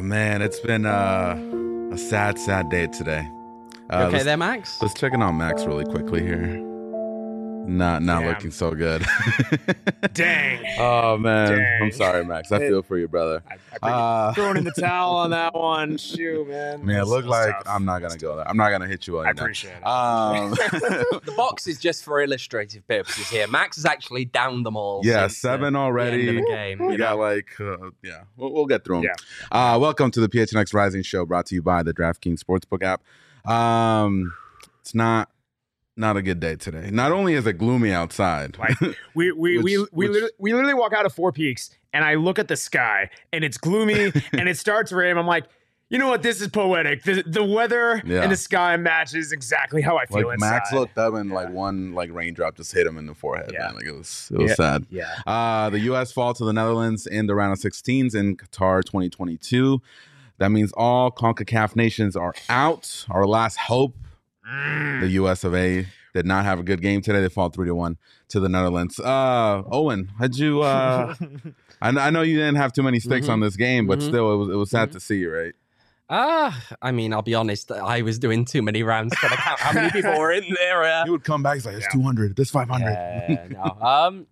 Man, it's been a sad day today. Okay there, Max? Let's check in on Max really quickly here. Not looking so good. Dang. Oh, man. Dang. I'm sorry, Max. I feel for you, brother. I throwing in the towel on that one. Shoot, man. Man, it looked like tough. I'm not going to go there. I'm not going to hit you on I it. appreciate it. The box is just for illustrative purposes here. Max has actually downed them all. Yeah, since, 7 the already. end of the game. We got we'll get through them. Yeah. Welcome to the PHNX Rising Show, brought to you by the DraftKings Sportsbook app. It's not a good day today. Not only is it gloomy outside, Like we literally walk out of Four Peaks and I look at the sky and it's gloomy and it starts raining. I'm like, you know what? This is poetic. The weather and the sky matches exactly how I feel inside. Max looked up and one raindrop just hit him in the forehead. Yeah. Man. Like it was sad. Yeah. The U.S. fall to the Netherlands in the round of 16s in Qatar 2022. That means all CONCACAF nations are out. Our last hope. The U.S. of A. did not have a good game today. They fall 3-1 to the Netherlands. Owen, how'd you? I know you didn't have too many sticks on this game, but still, it was sad to see you, right? I mean, I'll be honest. I was doing too many rounds to count how many people were in there. He would come back. He's like, "It's 200. This 500." No.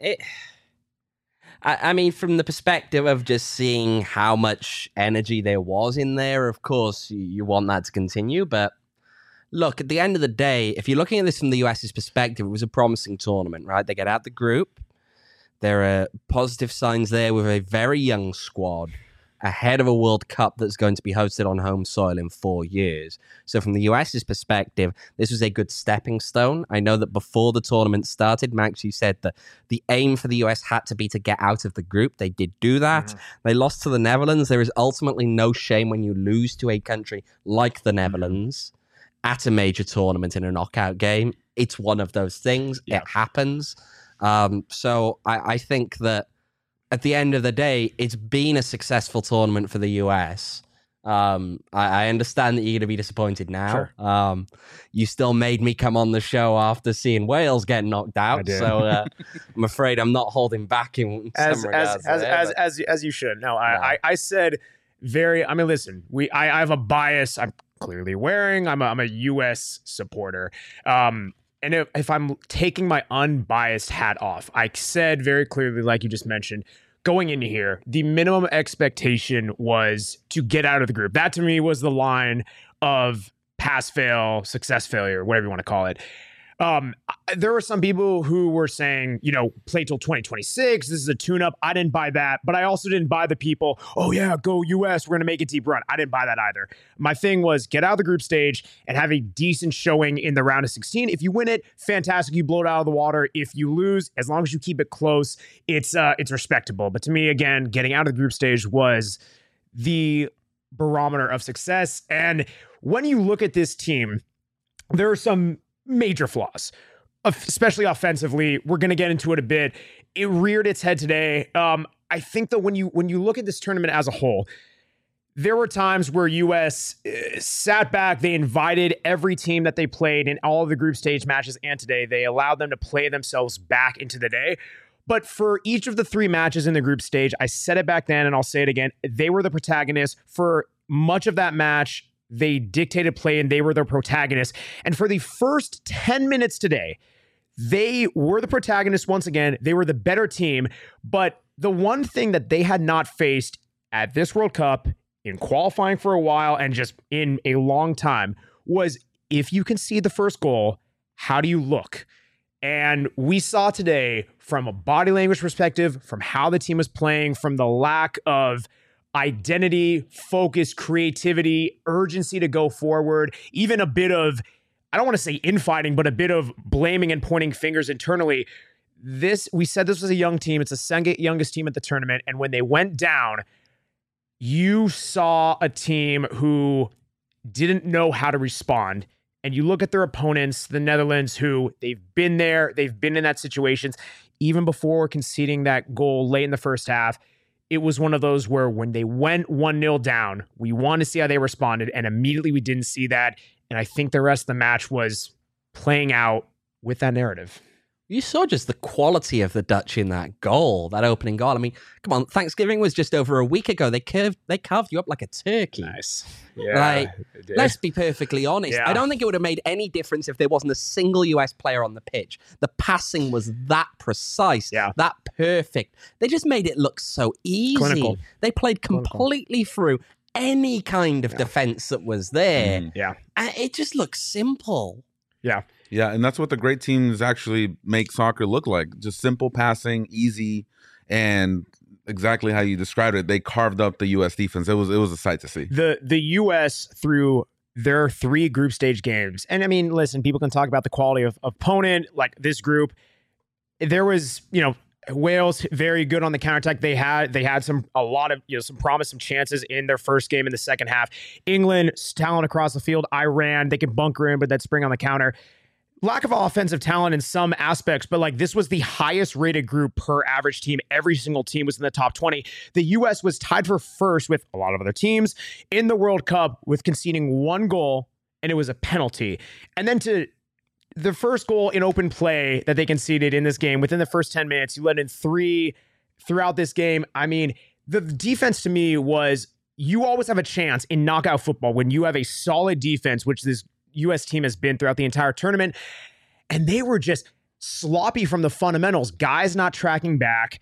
I mean, from the perspective of just seeing how much energy there was in there, of course, you want that to continue, but. Look, at the end of the day, if you're looking at this from the US's perspective, it was a promising tournament, right? They get out the group. There are positive signs there with a very young squad ahead of a World Cup that's going to be hosted on home soil in 4 years. So from the US's perspective, this was a good stepping stone. I know that before the tournament started, Max, you said that the aim for the US had to be to get out of the group. They did do that. They lost to the Netherlands. There is ultimately no shame when you lose to a country like the Netherlands. At a major tournament in a knockout game. It's one of those things. Yeah. It happens. So I think that at the end of the day, it's been a successful tournament for the US. I understand that you're going to be disappointed now. Sure. You still made me come on the show after seeing Wales get knocked out. So I'm afraid I'm not holding back in some regards. As you should. No, I said I mean, listen, I have a bias. I'm clearly wearing. I'm a U.S. supporter. And if I'm taking my unbiased hat off, I said very clearly, like you just mentioned, going into here, the minimum expectation was to get out of the group. That to me was the line of pass, fail, success, failure, whatever you want to call it. There were some people who were saying, play till 2026. This is a tune-up. I didn't buy that, but I also didn't buy the people, oh yeah, go US. We're going to make a deep run. I didn't buy that either. My thing was get out of the group stage and have a decent showing in the round of 16. If you win it, fantastic. You blow it out of the water. If you lose, as long as you keep it close, it's respectable. But to me, again, getting out of the group stage was the barometer of success. And when you look at this team, there are some major flaws, especially offensively. We're going to get into it a bit. It reared its head today. I think that when you look at this tournament as a whole, there were times where US sat back. They invited every team that they played in all of the group stage matches, and today they allowed them to play themselves back into the day. But for each of the 3 matches in the group stage, I said it back then and I'll say it again, they were the protagonists. For much of that match, they dictated play and they were the protagonists. And for the first 10 minutes today, they were the protagonists once again. They were the better team. But the one thing that they had not faced at this World Cup, in qualifying for a while and just in a long time, was if you concede the first goal, how do you look? And we saw today from a body language perspective, from how the team was playing, from the lack of identity, focus, creativity, urgency to go forward, even a bit of, I don't want to say infighting, but a bit of blaming and pointing fingers internally. We said this was a young team. It's the second youngest team at the tournament. And when they went down, you saw a team who didn't know how to respond. And you look at their opponents, the Netherlands, who they've been there, they've been in that situations, even before conceding that goal late in the first half. It was one of those where when they went 1-0 down, we wanted to see how they responded, and immediately we didn't see that. And I think the rest of the match was playing out with that narrative. You saw just the quality of the Dutch in that goal, that opening goal. I mean, come on, Thanksgiving was just over a week ago. They carved you up like a turkey. Nice. Yeah. Let's be perfectly honest. Yeah. I don't think it would have made any difference if there wasn't a single US player on the pitch. The passing was that precise, that perfect. They just made it look so easy. Clinical. They played completely through any kind of defense that was there. Yeah. And it just looks simple. Yeah. Yeah, and that's what the great teams actually make soccer look like. Just simple passing, easy, and exactly how you described it. They carved up the U.S. defense. It was a sight to see. The U.S. through their 3 group stage games, and I mean, listen, people can talk about the quality of opponent, like this group. There was, Wales very good on the counterattack. They had some promise, some chances in their first game in the second half. England, talent across the field. Iran, they can bunker in, but then spring on the counter. Lack of offensive talent in some aspects, but this was the highest rated group per average team. Every single team was in the top 20. The U.S. was tied for first with a lot of other teams in the World Cup with conceding 1 goal, and it was a penalty. And then to the first goal in open play that they conceded in this game, within the first 10 minutes, you let in 3 throughout this game. I mean, the defense to me was, you always have a chance in knockout football when you have a solid defense, which this U.S. team has been throughout the entire tournament. And they were just sloppy from the fundamentals. Guys not tracking back,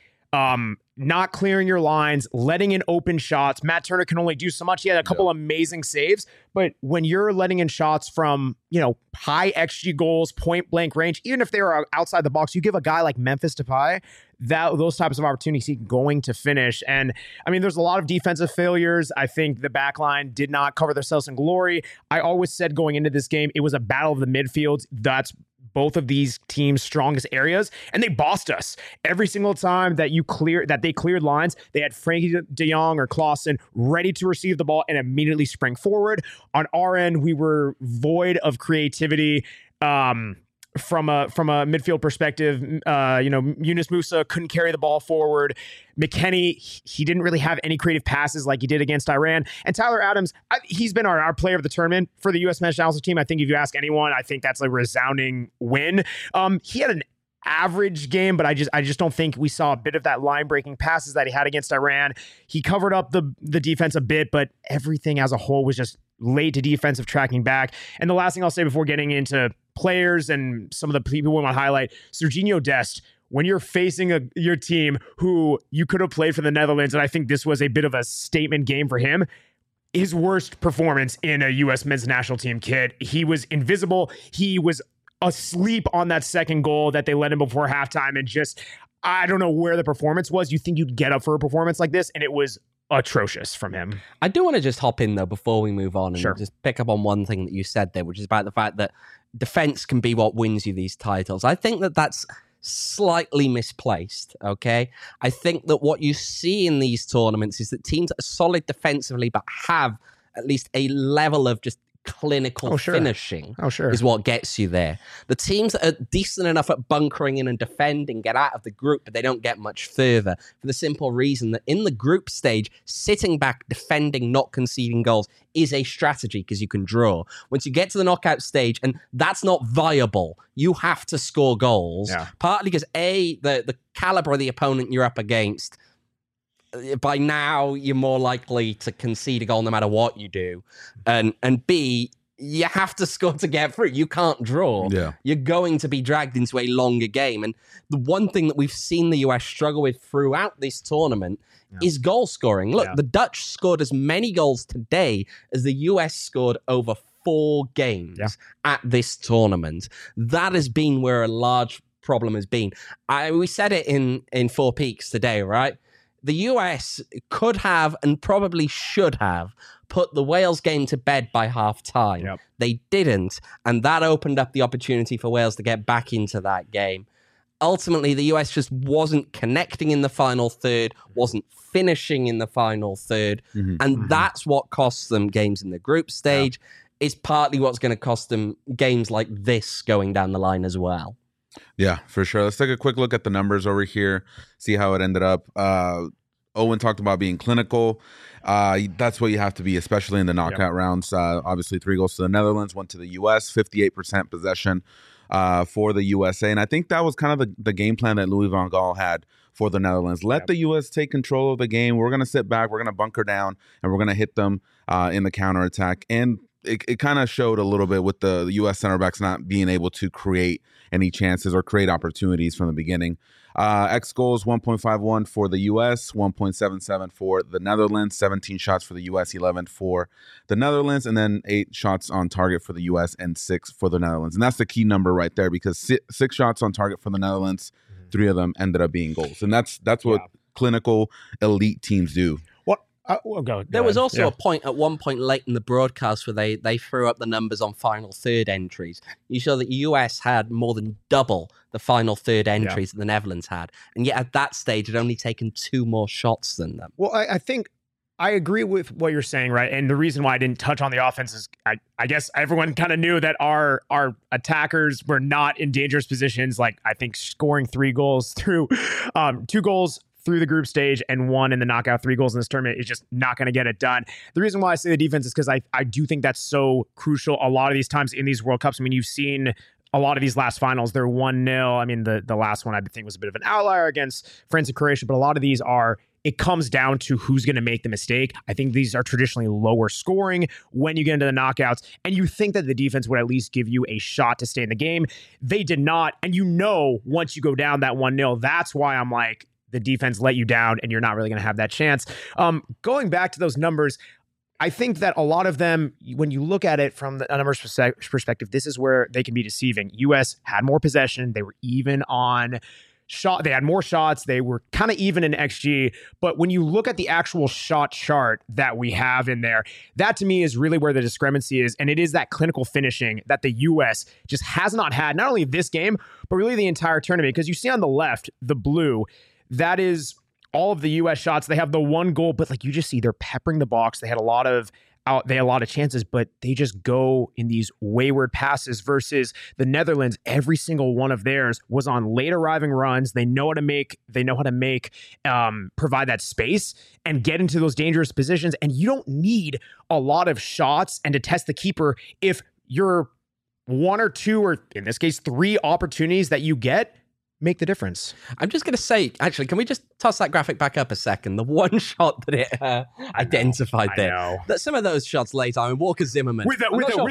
not clearing your lines, letting in open shots. Matt Turner can only do so much. He had a couple amazing saves, but when you're letting in shots from, high XG goals, point blank range, even if they were outside the box, you give a guy like Memphis Depay those types of opportunities, he's going to finish. And I mean, there's a lot of defensive failures. I think the back line did not cover themselves in glory. I always said going into this game, it was a battle of the midfields. That's both of these teams' strongest areas, and they bossed us every single time that they cleared lines. They had Frankie De Jong or Clausen ready to receive the ball and immediately sprang forward. On our end, we were void of creativity. From a midfield perspective, Yunus Musa couldn't carry the ball forward. McKennie, he didn't really have any creative passes like he did against Iran. And Tyler Adams, he's been our player of the tournament for the U.S. men's national team. I think if you ask anyone, I think that's a resounding win. He had an average game, but I just don't think we saw a bit of that line-breaking passes that he had against Iran. He covered up the defense a bit, but everything as a whole was just late to defensive tracking back. And the last thing I'll say before getting into players and some of the people we want to highlight, Serginho Dest, when you're facing your team who you could have played for the Netherlands, and I think this was a bit of a statement game for him, his worst performance in a U.S. men's national team kit. He was invisible. He was asleep on that second goal that they let him before halftime, and just, I don't know where the performance was. You think you'd get up for a performance like this, and it was atrocious from him. I do want to just hop in though before we move on and just pick up on one thing that you said there, which is about the fact that defense can be what wins you these titles. I think that that's slightly misplaced, okay? I think that what you see in these tournaments is that teams that are solid defensively but have at least a level of just clinical finishing is what gets you there. The teams that are decent enough at bunkering in and defending get out of the group, but they don't get much further for the simple reason that in the group stage, sitting back, defending, not conceding goals is a strategy because you can draw. Once you get to the knockout stage, and that's not viable, you have to score goals, partly because the caliber of the opponent you're up against, by now you're more likely to concede a goal no matter what you do, and B, you have to score to get through. You can't draw. You're going to be dragged into a longer game. And the one thing that we've seen the US struggle with throughout this tournament is goal scoring. Look, the Dutch scored as many goals today as the US scored over 4 games at this tournament. That has been where a large problem has been. We said it in Four Peaks today, right? The US could have and probably should have put the Wales game to bed by half time. They didn't, and that opened up the opportunity for Wales to get back into that game. Ultimately, the US just wasn't connecting in the final third, wasn't finishing in the final third, and that's what costs them games in the group stage. It's partly what's going to cost them games like this going down the line as well. Yeah, for sure. Let's take a quick look at the numbers over here, see how it ended up. Owen talked about being clinical. That's what you have to be, especially in the knockout rounds. Obviously, 3 goals to the Netherlands, 1 to the U.S., 58% possession. for the USA. And I think that was kind of the game plan that Louis van Gaal had for the Netherlands. Let the U.S. take control of the game. We're going to sit back. We're going to bunker down, and we're going to hit them in the counterattack. And it kind of showed a little bit with the U.S. center backs not being able to create any chances or create opportunities from the beginning. X goals 1.51 for the U.S., 1.77 for the Netherlands, 17 shots for the U.S., 11 for the Netherlands, and then 8 shots on target for the U.S. and 6 for the Netherlands. And that's the key number right there, because 6 shots on target for the Netherlands, 3 of them ended up being goals. And that's what clinical elite teams do. There was also a point at one point late in the broadcast where they threw up the numbers on final third entries. You saw that the US had more than double the final third entries that the Netherlands had. And yet at that stage, it had only taken 2 more shots than them. Well, I think I agree with what you're saying, right? And the reason why I didn't touch on the offense is I guess everyone kind of knew that our attackers were not in dangerous positions. Like, I think scoring 3 goals through 2 goals through the group stage and 1 in the knockout, 3 goals in this tournament is just not going to get it done. The reason why I say the defense is because I do think that's so crucial a lot of these times in these World Cups. I mean, you've seen a lot of these last finals, they're 1-0. I mean, the last one I think was a bit of an outlier against France and Croatia, but a lot of these it comes down to who's going to make the mistake. I think these are traditionally lower scoring when you get into the knockouts, and you think that the defense would at least give you a shot to stay in the game. They did not, and once you go down that 1-0, that's why I'm like, the defense let you down and you're not really going to have that chance. Going back to those numbers, I think that a lot of them, when you look at it from the numbers perspective, this is where they can be deceiving. U.S. had more possession. They were even on shot. They had more shots. They were kind of even in XG. But when you look at the actual shot chart that we have in there, that to me is really where the discrepancy is. And it is that clinical finishing that the U.S. just has not had, not only this game, but really the entire tournament. Because you see on the left, the blue, that is all of the U.S. shots. They have the 1 goal, but like you just see, they're peppering the box. They had a lot of chances, but they just go in these wayward passes versus the Netherlands. Every single one of theirs was on late arriving runs. They know how to provide that space and get into those dangerous positions. And you don't need a lot of shots and to test the keeper if you're 1 or 2, or in this case, 3 opportunities that you get make the difference. I'm just going to say, actually, can we just toss that graphic back up a second? The one shot that it identified there. That some of those shots later, I mean, Walker Zimmerman. Trying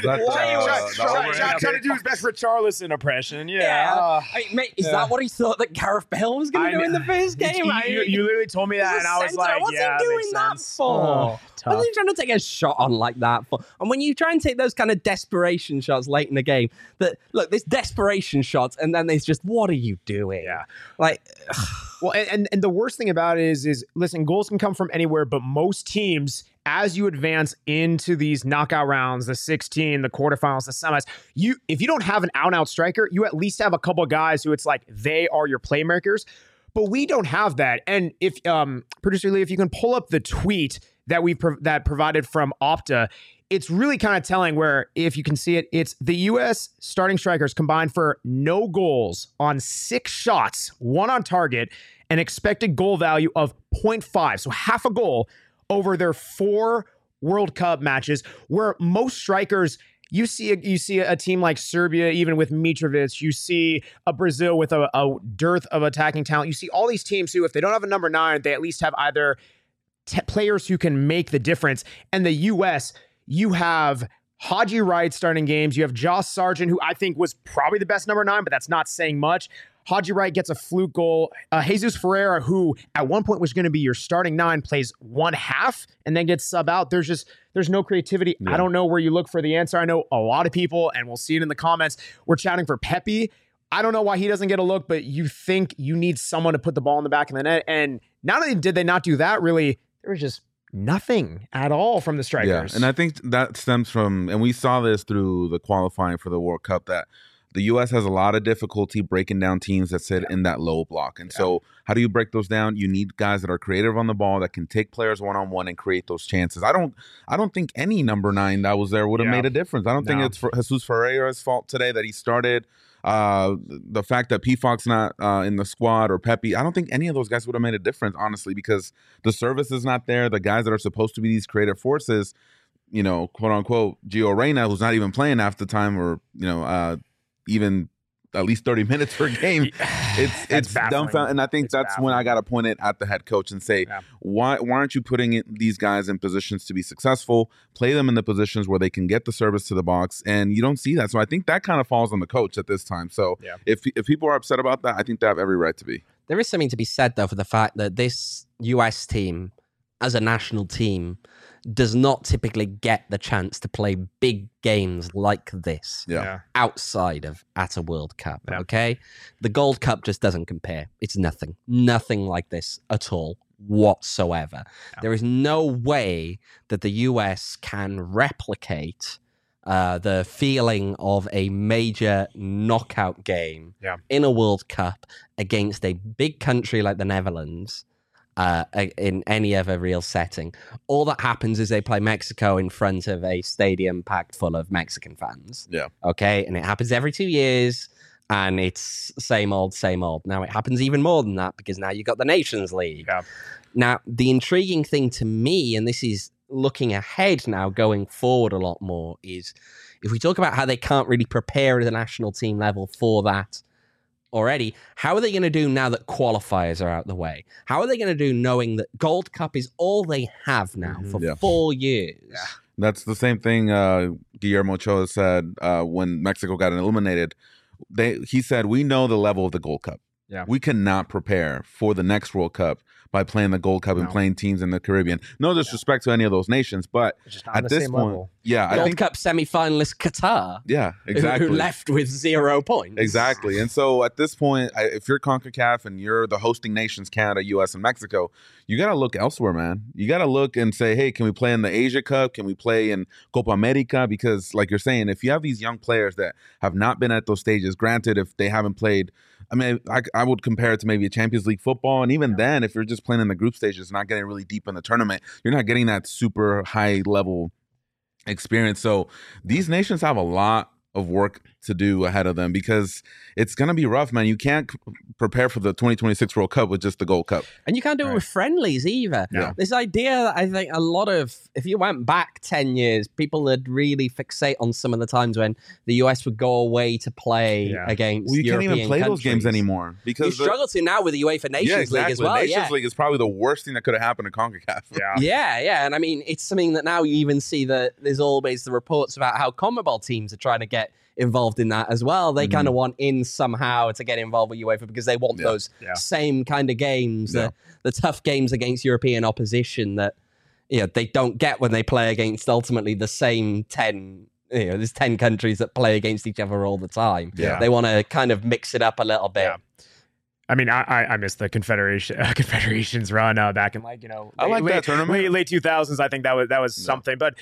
to do his best Richarlison impression. Yeah. Mate, is that what he thought that Gareth Bale was going to do in the first game? You literally told me that, and I was like, what's he doing that for? What are you trying to take a shot on like that for? And when you try and take those kind of desperation shots late in the game, there's desperation shots, and then there's just, what are you doing? Yeah. Like, well, and the worst thing about it is listen, goals can come from anywhere, but most teams, as you advance into these knockout rounds, the 16, the quarterfinals, the semis, if you don't have an out-and-out striker, you at least have a couple of guys who it's like they are your playmakers. But we don't have that. And if Producer Lee, if you can pull up the tweet that that provided from Opta, it's really kind of telling where, if you can see it, it's the U.S. starting strikers combined for no goals on 6 shots, 1 on target, an expected goal value of 0.5. So half a goal over their 4 World Cup matches, where most strikers, you see a team like Serbia, even with Mitrovic. You see a Brazil with a dearth of attacking talent. You see all these teams who, if they don't have a number 9, they at least have either players who can make the difference. And the U.S., you have Haji Wright starting games. You have Josh Sargent, who I think was probably the best number 9, but that's not saying much. Haji Wright gets a fluke goal. Jesus Ferreira, who at one point was going to be your starting 9, plays 1/2 and then gets sub out. There's no creativity. Yeah. I don't know where you look for the answer. I know a lot of people, and we'll see it in the comments, we're chatting for Pepe. I don't know why he doesn't get a look, but you think you need someone to put the ball in the back of the net. And not only did they not do that, really, there was just nothing at all from the strikers. Yeah, and I think that stems from, and we saw this through the qualifying for the World Cup, that the U.S. has a lot of difficulty breaking down teams that sit in that low block. And so how do you break those down? You need guys that are creative on the ball, that can take players one-on-one and create those chances. I don't think any number 9 that was there would have made a difference. I don't think it's Jesus Ferreira's fault today that he started. The fact that Pfog's not in the squad, or Pepe, I don't think any of those guys would have made a difference, honestly, because the service is not there. The guys that are supposed to be these creative forces, quote unquote, Gio Reyna, who's not even playing half the time, or even at least 30 minutes per game. It's dumbfounding. And I think that's when I got to point it at the head coach and say, why aren't you putting these guys in positions to be successful? Play them in the positions where they can get the service to the box, and you don't see that. So I think that kind of falls on the coach at this time. So if people are upset about that, I think they have every right to be. There is something to be said, though, for the fact that this US team, as a national team, does not typically get the chance to play big games like this outside of at a World Cup, okay? The Gold Cup just doesn't compare. It's nothing like this at all whatsoever. There is no way that the US can replicate the feeling of a major knockout game in a World Cup against a big country like the Netherlands in any other real setting. All that happens is they play Mexico in front of a stadium packed full of Mexican fans. Okay, and it happens every 2 years, and it's same old. Now it happens even more than that because now you've got the Nations League. Now, the intriguing thing to me, and this is looking ahead now, going forward a lot more, is if we talk about how they can't really prepare at the national team level for that already, how are they going to do now that qualifiers are out the way? How are they going to do knowing that Gold Cup is all they have now for 4 years? That's the same thing Guillermo Ochoa said when Mexico got eliminated. He said, we know the level of the Gold Cup. We cannot prepare for the next World Cup by playing the Gold Cup and playing teams in the Caribbean. No disrespect to any of those nations, but at this point, Gold Cup semi-finalist Qatar. Exactly. Who left with 0 points. Exactly. And so at this point, if you're CONCACAF and you're the hosting nations, Canada, US, and Mexico, you got to look elsewhere, man. You got to look and say, hey, can we play in the Asia Cup? Can we play in Copa America? Because like you're saying, if you have these young players that have not been at those stages, granted, if they haven't played, I mean, I would compare it to maybe a Champions League football. And even then, if you're just playing in the group stages, not getting really deep in the tournament, you're not getting that super high level experience. So these nations have a lot of work to do ahead of them because it's going to be rough, man. You can't prepare for the 2026 World Cup with just the Gold Cup. And you can't do it with friendlies either. This idea that I think a lot of, if you went back 10 years, people would really fixate on some of the times when the US would go away to play against you European can't even play countries. those games anymore. Because you struggle to now with the UEFA Nations League as well. The Nations League is probably the worst thing that could have happened to CONCACAF. And I mean, it's something that now you even see that there's always the reports about how CONMEBOL teams are trying to get involved in that as well. They kind of want in somehow to get involved with UEFA because they want those same kind of games, the tough games against European opposition that they don't get when they play against ultimately the same 10. There's 10 countries that play against each other all the time. They want to kind of mix it up a little bit. I mean, I missed the Confederations run back in I like that tournament. Late 2000s. I think that was something, but.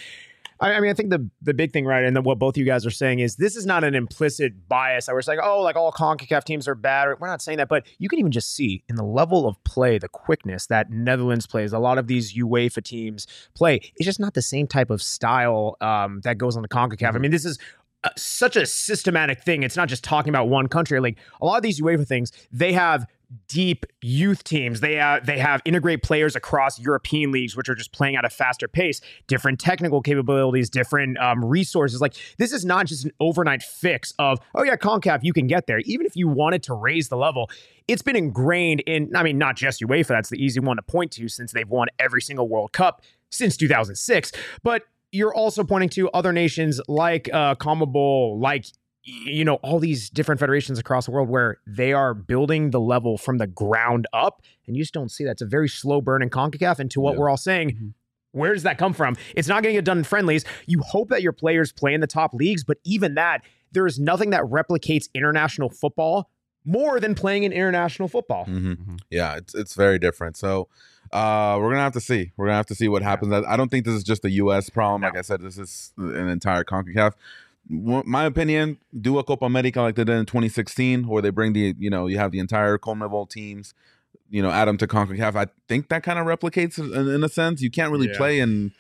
I mean, I think the big thing, right, and what both you guys are saying is this is not an implicit bias. I was like, oh, like all CONCACAF teams are bad. We're not saying that, but you can even just see in the level of play, the quickness that Netherlands plays, a lot of these UEFA teams play. It's just not the same type of style that goes on the CONCACAF. I mean, this is such a systematic thing. It's not just talking about one country. Like a lot of these UEFA things, they have deep youth teams. They have integrate players across European leagues, which are just playing at a faster pace, different technical capabilities, different resources. Like this is not just an overnight fix of, oh yeah, CONCACAF, you can get there. Even if you wanted to raise the level, it's been ingrained in, I mean, not just UEFA, that's the easy one to point to since they've won every single World Cup since 2006. But you're also pointing to other nations like CONMEBOL, like all these different federations across the world where they are building the level from the ground up, and you just don't see that. It's a very slow burn in CONCACAF. And to what we're all saying, where does that come from? It's not going to get done in friendlies. You hope that your players play in the top leagues, but even that, there is nothing that replicates international football more than playing in international football. Yeah, it's very different. So we're gonna have to see. We're gonna have to see what happens. I don't think this is just a U.S. problem. Like I said, this is an entire CONCACAF. My opinion, do a Copa America like they did in 2016, where they bring you have the entire CONMEBOL teams, add them to CONCACAF. I think that kind of replicates in a sense. You can't really play in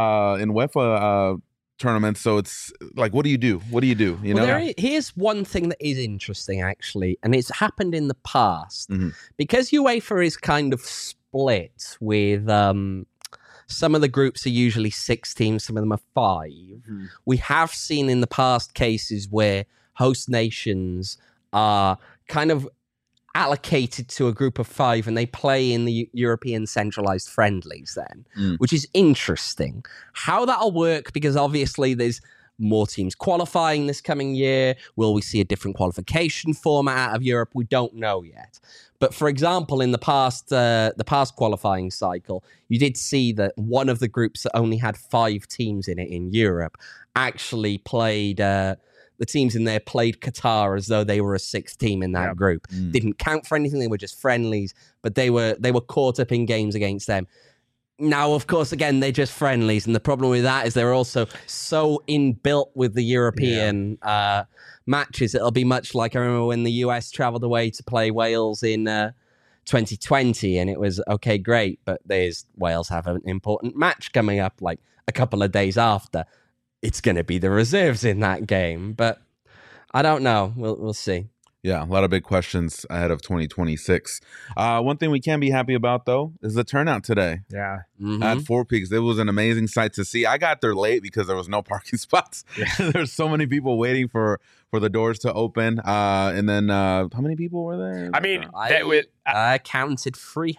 UEFA tournaments, so it's like, what do you do? Here's one thing that is interesting, actually, and it's happened in the past because UEFA is kind of split with. Some of the groups are usually 6 teams, some of them are 5. We have seen in the past cases where host nations are kind of allocated to a group of 5 and they play in the European centralized friendlies then, which is interesting. How that'll work, because obviously there's more teams qualifying this coming year. Will we see a different qualification format out of Europe? We don't know yet. But for example, in the past qualifying cycle, you did see that one of the groups that only had 5 teams in it in Europe actually played, the teams in there played Qatar as though they were a 6th team in that group. Didn't count for anything. They were just friendlies, but they were caught up in games against them. Now, of course, again, they're just friendlies. And the problem with that is they're also so inbuilt with the European matches. It'll be much like, I remember when the US traveled away to play Wales in 2020, and it was, okay, great, but Wales have an important match coming up like a couple of days after. It's going to be the reserves in that game. But I don't know. We'll see. Yeah, a lot of big questions ahead of 2026. One thing we can be happy about, though, is the turnout today. Yeah. At Four Peaks. It was an amazing sight to see. I got there late because there was no parking spots. Yeah. There's so many people waiting for the doors to open. And then how many people were there? I mean, I counted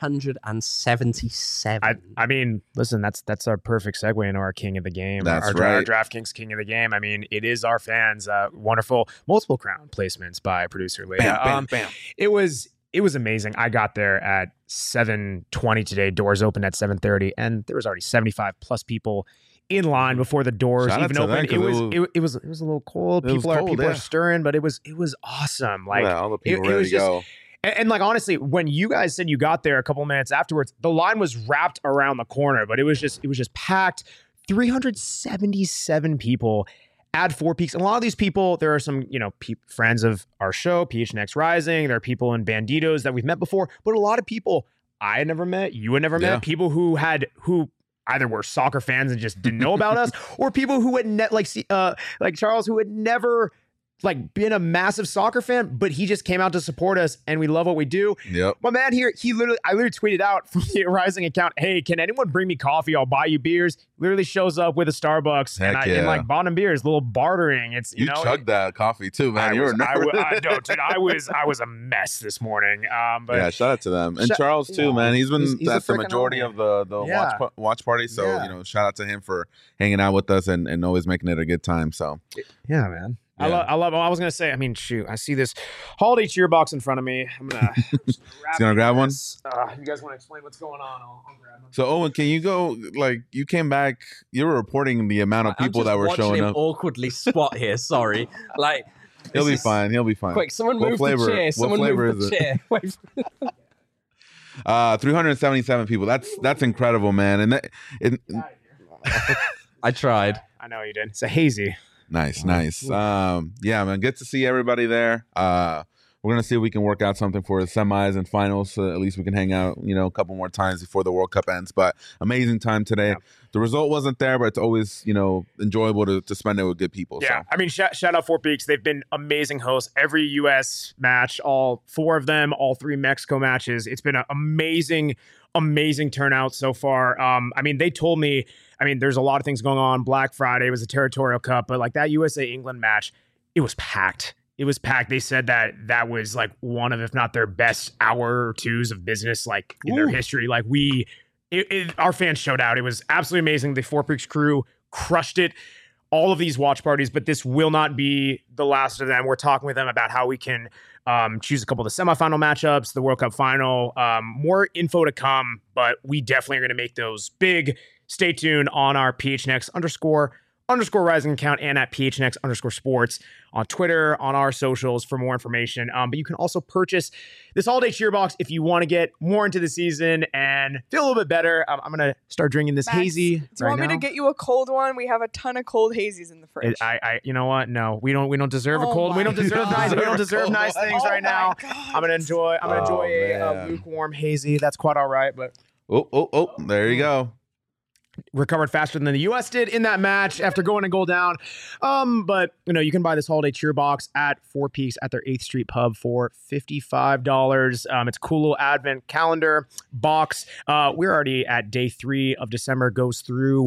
377. I mean, listen, that's our perfect segue into our king of the game. That's our right. DraftKings king of the game. I mean, it is our fans. Wonderful multiple crown placements by producer Leah. Bam, bam, bam. It was amazing. I got there at 7:20 today. Doors opened at 7:30, and there was already 75 plus people in line before the doors even opened. It was a little cold. People are stirring, but it was awesome. Like all the people ready to go. And like, honestly, when you guys said you got there a couple minutes afterwards, the line was wrapped around the corner, but it was just packed. 377 people at Four Peaks. And a lot of these people, there are some, friends of our show, PHNX Rising. There are people in Banditos that we've met before, but a lot of people I had never met, you had never met, people who either were soccer fans and just didn't know about us, or people who had like Charles, who had never been a massive soccer fan, but he just came out to support us, and we love what we do. Yep. My man here, I literally tweeted out from the Rising account, "Hey, can anyone bring me coffee? I'll buy you beers." Literally shows up with a Starbucks and bought him beers, little bartering. It's you chugged that coffee too, man. You were nervous. I was a mess this morning. But yeah, shout out to them and Charles too, man. He's been at the majority of the watch party. So shout out to him for hanging out with us and always making it a good time. So yeah, man. Yeah. I love. I was gonna say. I mean, shoot. I see this holiday cheer box in front of me. I'm gonna. grab one. You guys want to explain what's going on? I'll grab one. So Owen, can you go? You came back. You were reporting the amount of people that were showing up. Awkwardly squat here. Sorry. He'll be fine. He'll be fine. Quick, someone move the chair. Someone move the chair. 377 people. That's incredible, man. And I tried. I know you did. It's a hazy. Nice. Yeah, man. Good to see everybody there. We're going to see if we can work out something for the semis and finals, so at least we can hang out, a couple more times before the World Cup ends. But amazing time today. Yeah. The result wasn't there, but it's always, enjoyable to spend it with good people. Yeah. So. I mean, shout out Four Peaks. They've been amazing hosts. Every U.S. match, all 4 of them, all 3 Mexico matches. It's been an amazing turnout so far. I mean, they told me, there's a lot of things going on. Black Friday was a territorial cup, but that USA-England match, it was packed. It was packed. They said that was one of, if not their best hour or twos of business, in their history. Our fans showed out. It was absolutely amazing. The Four Peaks crew crushed it. All of these watch parties, but this will not be the last of them. We're talking with them about how we can choose a couple of the semifinal matchups, the World Cup final. More info to come, but we definitely are going to make those big. Stay tuned on our PHNX_Rising account and at PHNX_sports on Twitter, on our socials for more information. But you can also purchase this holiday cheer box if you want to get more into the season and feel a little bit better. I'm going to start drinking this hazy. Do you want me to get you a cold one? We have a ton of cold hazies in the fridge. You know what? No, we don't deserve a cold. We don't deserve nice. We don't deserve nice things right now. I'm going to enjoy a lukewarm hazy. That's quite all right. But there you go. Recovered faster than the U.S. did in that match after going a goal down. But you can buy this holiday cheer box at Four Peaks at their 8th Street pub for $55. It's a cool little advent calendar box. We're already at day 3 of December. Goes through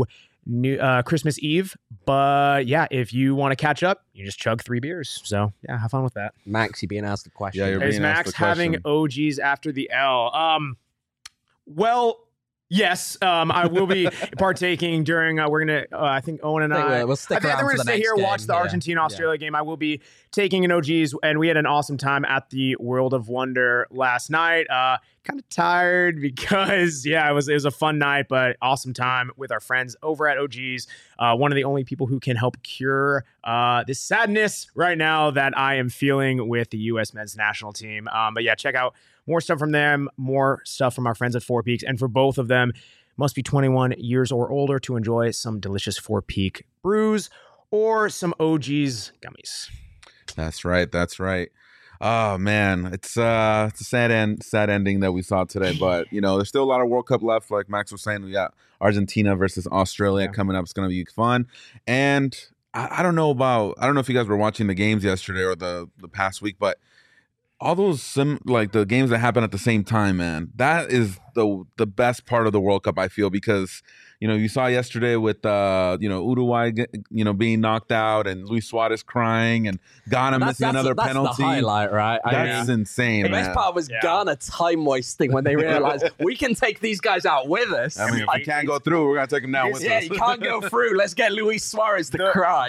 Christmas Eve. But yeah, if you want to catch up, you just chug 3 beers. So yeah, have fun with that. Max, you being asked the question. Yeah, you're Is being asked Max the question. having OGs after the L? Well, yes, I will be partaking during. We're gonna. I think Owen and I. We'll stick I think around we're for gonna the stay next here, game. watch the Yeah. Argentina-Australia game. I will be taking an OGs, and we had an awesome time at the World of Wonder last night. Kind of tired because it was a fun night, but awesome time with our friends over at OGs. One of the only people who can help cure this sadness right now that I am feeling with the U.S. men's national team. But yeah, check out more stuff from them, more stuff from our friends at Four Peaks, and for both of them, must be 21 years or older to enjoy some delicious Four Peak brews or some OGs gummies. That's right. That's right. Oh man, it's a sad ending that we saw today. But there's still a lot of World Cup left. Like Max was saying, we got Argentina versus Australia coming up. It's gonna be fun. And I don't know if you guys were watching the games yesterday or the past week, but all those the games that happen at the same time, man, that is the best part of the World Cup, I feel, because you saw yesterday with Uruguay being knocked out and Luis Suarez crying and Ghana missing another penalty. That's the highlight, right? That's insane. The best part was Ghana time wasting when they realized we can take these guys out with us. I mean, if we can't go through, we're gonna take them down with us. You can't go through. Let's get Luis Suarez to cry.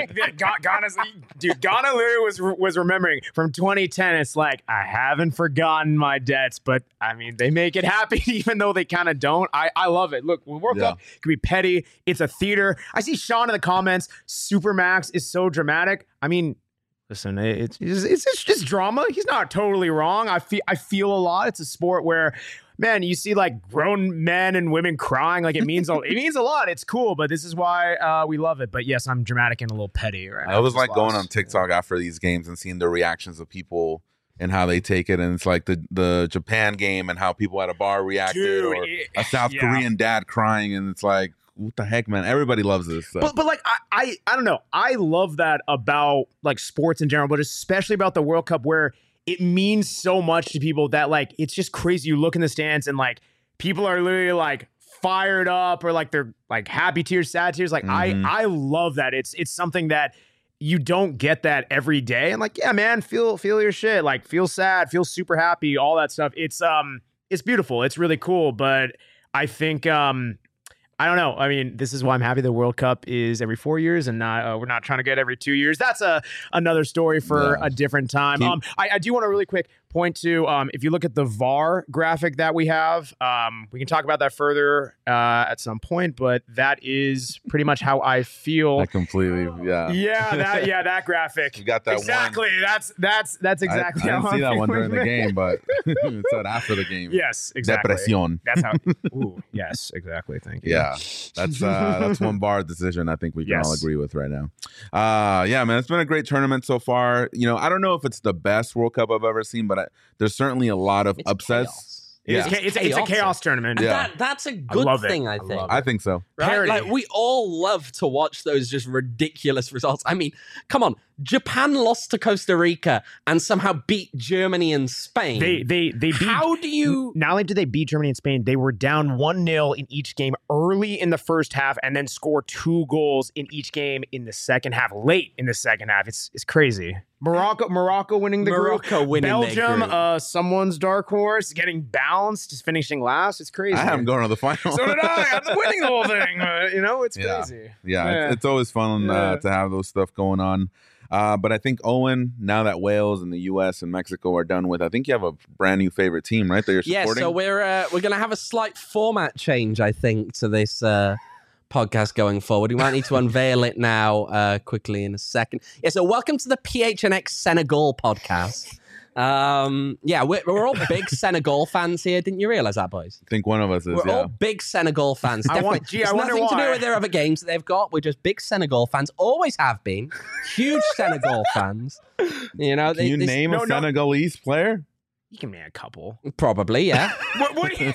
Ghana literally was remembering from 2010. It's like, I haven't forgotten my debts, but I mean, they make it happen even though they kind of don't. I love it. Look, World Cup can be petty. It's a theater. I see Sean in the comments. Supermax is so dramatic. I mean, listen, it's just drama. He's not totally wrong. I feel a lot. It's a sport where, man, you see like grown men and women crying. Like it means a lot. It's cool, but this is why we love it. But yes, I'm dramatic and a little petty right now. I was like going on TikTok after these games and seeing the reactions of people and how they take it, and it's like the Japan game and how people at a bar reacted, or a South Korean dad crying, and it's like, what the heck, man? Everybody loves this. So. But like I don't know. I love that about like sports in general, but especially about the World Cup, where it means so much to people that like it's just crazy. You look in the stands and like people are literally like fired up, or like they're like happy tears, sad tears. Like I love that. It's something that you don't get that every day. And like, yeah, man, feel your shit. Like feel sad, feel super happy, all that stuff. It's beautiful. It's really cool. But I think I don't know. I mean, this is why I'm happy the World Cup is every 4 years and not we're not trying to get every 2 years. That's another story for a different time. I do want to really quick point to if you look at the VAR graphic that we have, we can talk about that further at some point, but that is pretty much how I feel. I completely, that graphic. You got that exactly. one. That's exactly. I didn't see that one during the game, but it said after the game. Yes, exactly. Depresión. That's how. Ooh, yes, exactly. Thank you. Yeah, that's one bar decision I think we can all agree with right now. Yeah, man, it's been a great tournament so far. I don't know if it's the best World Cup I've ever seen, but there's certainly a lot of upsets. Chaos. It's a chaos tournament. And that's a good thing, I think. I think so. Right? Like, we all love to watch those just ridiculous results. I mean, come on. Japan lost to Costa Rica and somehow beat Germany and Spain. They beat. How do you? Not only did they beat Germany and Spain, they were down 1-0 in each game early in the first half, and then score 2 goals in each game in the second half, late in the second half. It's crazy. Morocco winning the group. Belgium, someone's dark horse, getting bounced, just finishing last. It's crazy. I have them going to the final. So did I. I'm winning the whole thing. It's crazy. Yeah. It's always fun to have those stuff going on. But I think, Owen, now that Wales and the U.S. and Mexico are done with, I think you have a brand new favorite team, right? That you're supporting. Yeah, so we're going to have a slight format change, I think, to this podcast going forward. We might need to unveil it now quickly in a second. Yeah, so welcome to the PHNX Senegal podcast. We're all big Senegal fans here. Didn't you realize that, boys? I think one of us is. We're all big Senegal fans. Definitely. It's nothing to do with their other games that they've got. We're just big Senegal fans. Always have been. Huge Senegal fans. Can you name a Senegalese player? You can name a couple. Probably, yeah. What do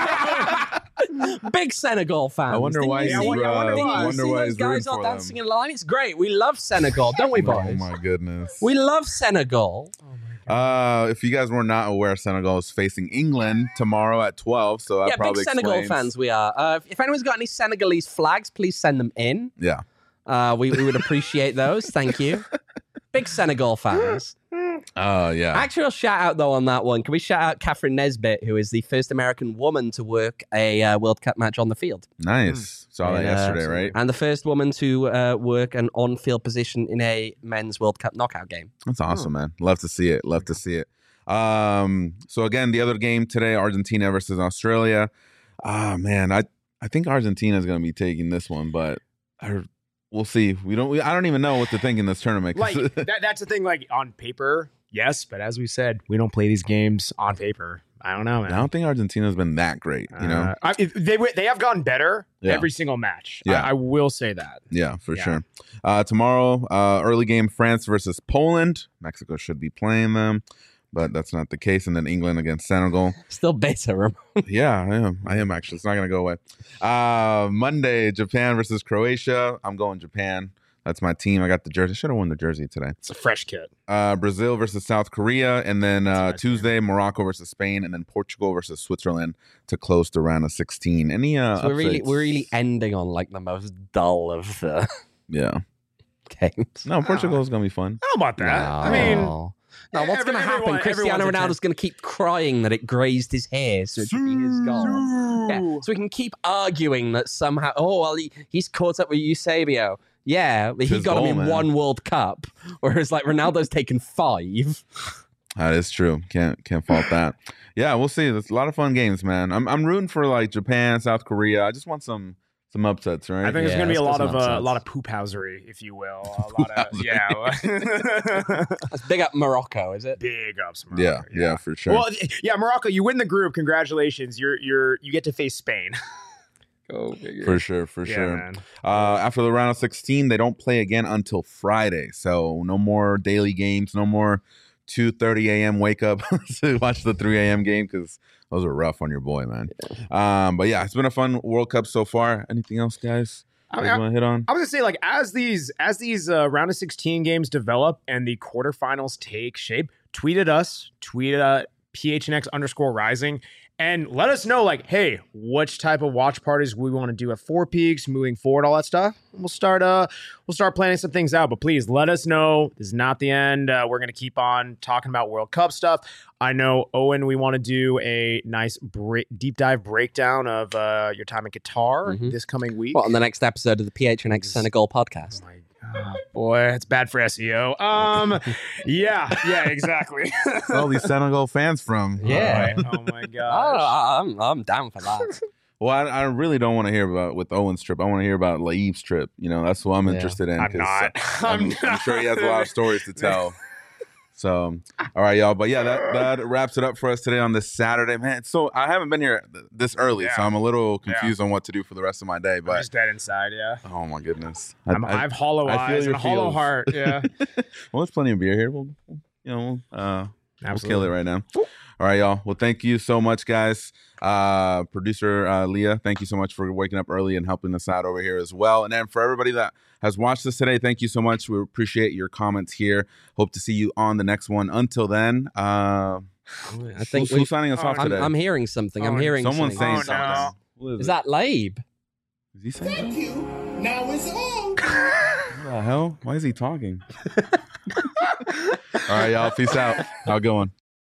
you... Big Senegal fans. I wonder why he's those guys are dancing in line. It's great. We love Senegal, don't we, boys? Oh my goodness. We love Senegal. If you guys were not aware, Senegal is facing England tomorrow at 12. So that Yeah, big probably Senegal explains. fans we are. If anyone's got any Senegalese flags, please send them in. Yeah. We would appreciate those. Thank you. Big Senegal fans. Oh, yeah. Actual shout out though on that one. Can we shout out Catherine Nesbitt, who is the first American woman to work a World Cup match on the field, Nice. Saw that And, yesterday, right? and the first woman to work an on-field position in a men's World Cup knockout game. That's awesome, man. Love to see it. Love to see it. So again, the other game today, Argentina versus Australia. Man, I think Argentina is going to be taking this one, but we'll see. I don't even know what to think in this tournament. Like that's the thing. Like on paper, yes, but as we said, we don't play these games on paper. I don't know, man. I don't think Argentina's been that great, you know? They have gotten better Yeah. every single match. Yeah. I will say that. Yeah, for Yeah. sure. Tomorrow, early game, France versus Poland. Mexico should be playing them, but that's not the case. And then England against Senegal. Still bitter. Yeah, I am actually. It's not going to go away. Monday, Japan versus Croatia. I'm going Japan. That's my team. I got the jersey. Should have won the jersey today. It's a fresh kit. Brazil versus South Korea. And then nice Tuesday, Morocco versus Spain. And then Portugal versus Switzerland to close the round of 16. Any So we're updates? really ending on like the most dull of the Yeah. games. No, Portugal is going to be fun. How about that? I mean, No, what's going to happen? everyone- Cristiano everyone's a Ronaldo's going to keep crying that it grazed his hair, so it should be his goal. Yeah, so we can keep arguing that somehow, he's caught up with Eusebio. Yeah, but he His got goal, him in man. one World Cup, whereas like Ronaldo's taken 5. That is true. Can't fault that. Yeah, we'll see. There's a lot of fun games, man. I'm rooting for like Japan, South Korea. I just want some upsets, right? I think there's Yeah, going to be a let's lot go of some a lot of upsets. poophousery, if you will. A lot of yeah, That's big up Morocco, is it? big ups. yeah, Morocco, yeah, for sure. Well, yeah, Morocco, you win the group. Congratulations. You get to face Spain. Go figure. for sure. Yeah, man. After the round of 16, they don't play again until Friday. So no more daily games, no more 2:30 a.m. wake up to watch the 3 a.m. game because those are rough on your boy, man. But yeah, it's been a fun World Cup so far. Anything else, guys? I You want to hit on? I was gonna say, like, as these round of 16 games develop and the quarterfinals take shape, tweet at us, tweet at PHNX_rising, and let us know, like, hey, which type of watch parties we want to do at Four Peaks moving forward, all that stuff. We'll start planning some things out. But please let us know. This is not the end. We're gonna keep on talking about World Cup stuff. I know, Owen, we want to do a nice deep dive breakdown of your time in Qatar Mhm. this coming week. What, on the next episode of the PHNX Senegal podcast? Oh my God, boy, it's bad for SEO. Yeah, exactly. Where's all these Senegal fans from? Yeah. Oh my gosh. I'm down for that. Well, I really don't want to hear about with Owen's trip. I want to hear about Laib's trip. You know, that's what I'm Yeah. interested in. I'm 'cause, not. I'm sure he has a lot of stories to tell. So, all right, y'all. But yeah, that wraps it up for us today on this Saturday, man. So I haven't been here this early, so Yeah. I'm a little confused on what to do for the rest of my day. I'm But just dead inside, yeah. oh my goodness, I have hollow I feel eyes and your a hollow feels. heart. Yeah. well, there's plenty of beer here. We'll kill Absolutely. it right now. All right, y'all. Well, thank you so much, guys. Producer Leah, thank you so much for waking up early and helping us out over here as well. And then for everybody that has watched this today, thank you so much. We appreciate your comments here. Hope to see you on the next one. Until then, I think who's signing us off today? I'm hearing something. I'm Oh, hearing Someone's something. saying Oh, something. no. What Is that Laib? Is he saying Thank something? you. Now it's on. What the hell? Why is he talking? All right, y'all. Peace out. Have a good one.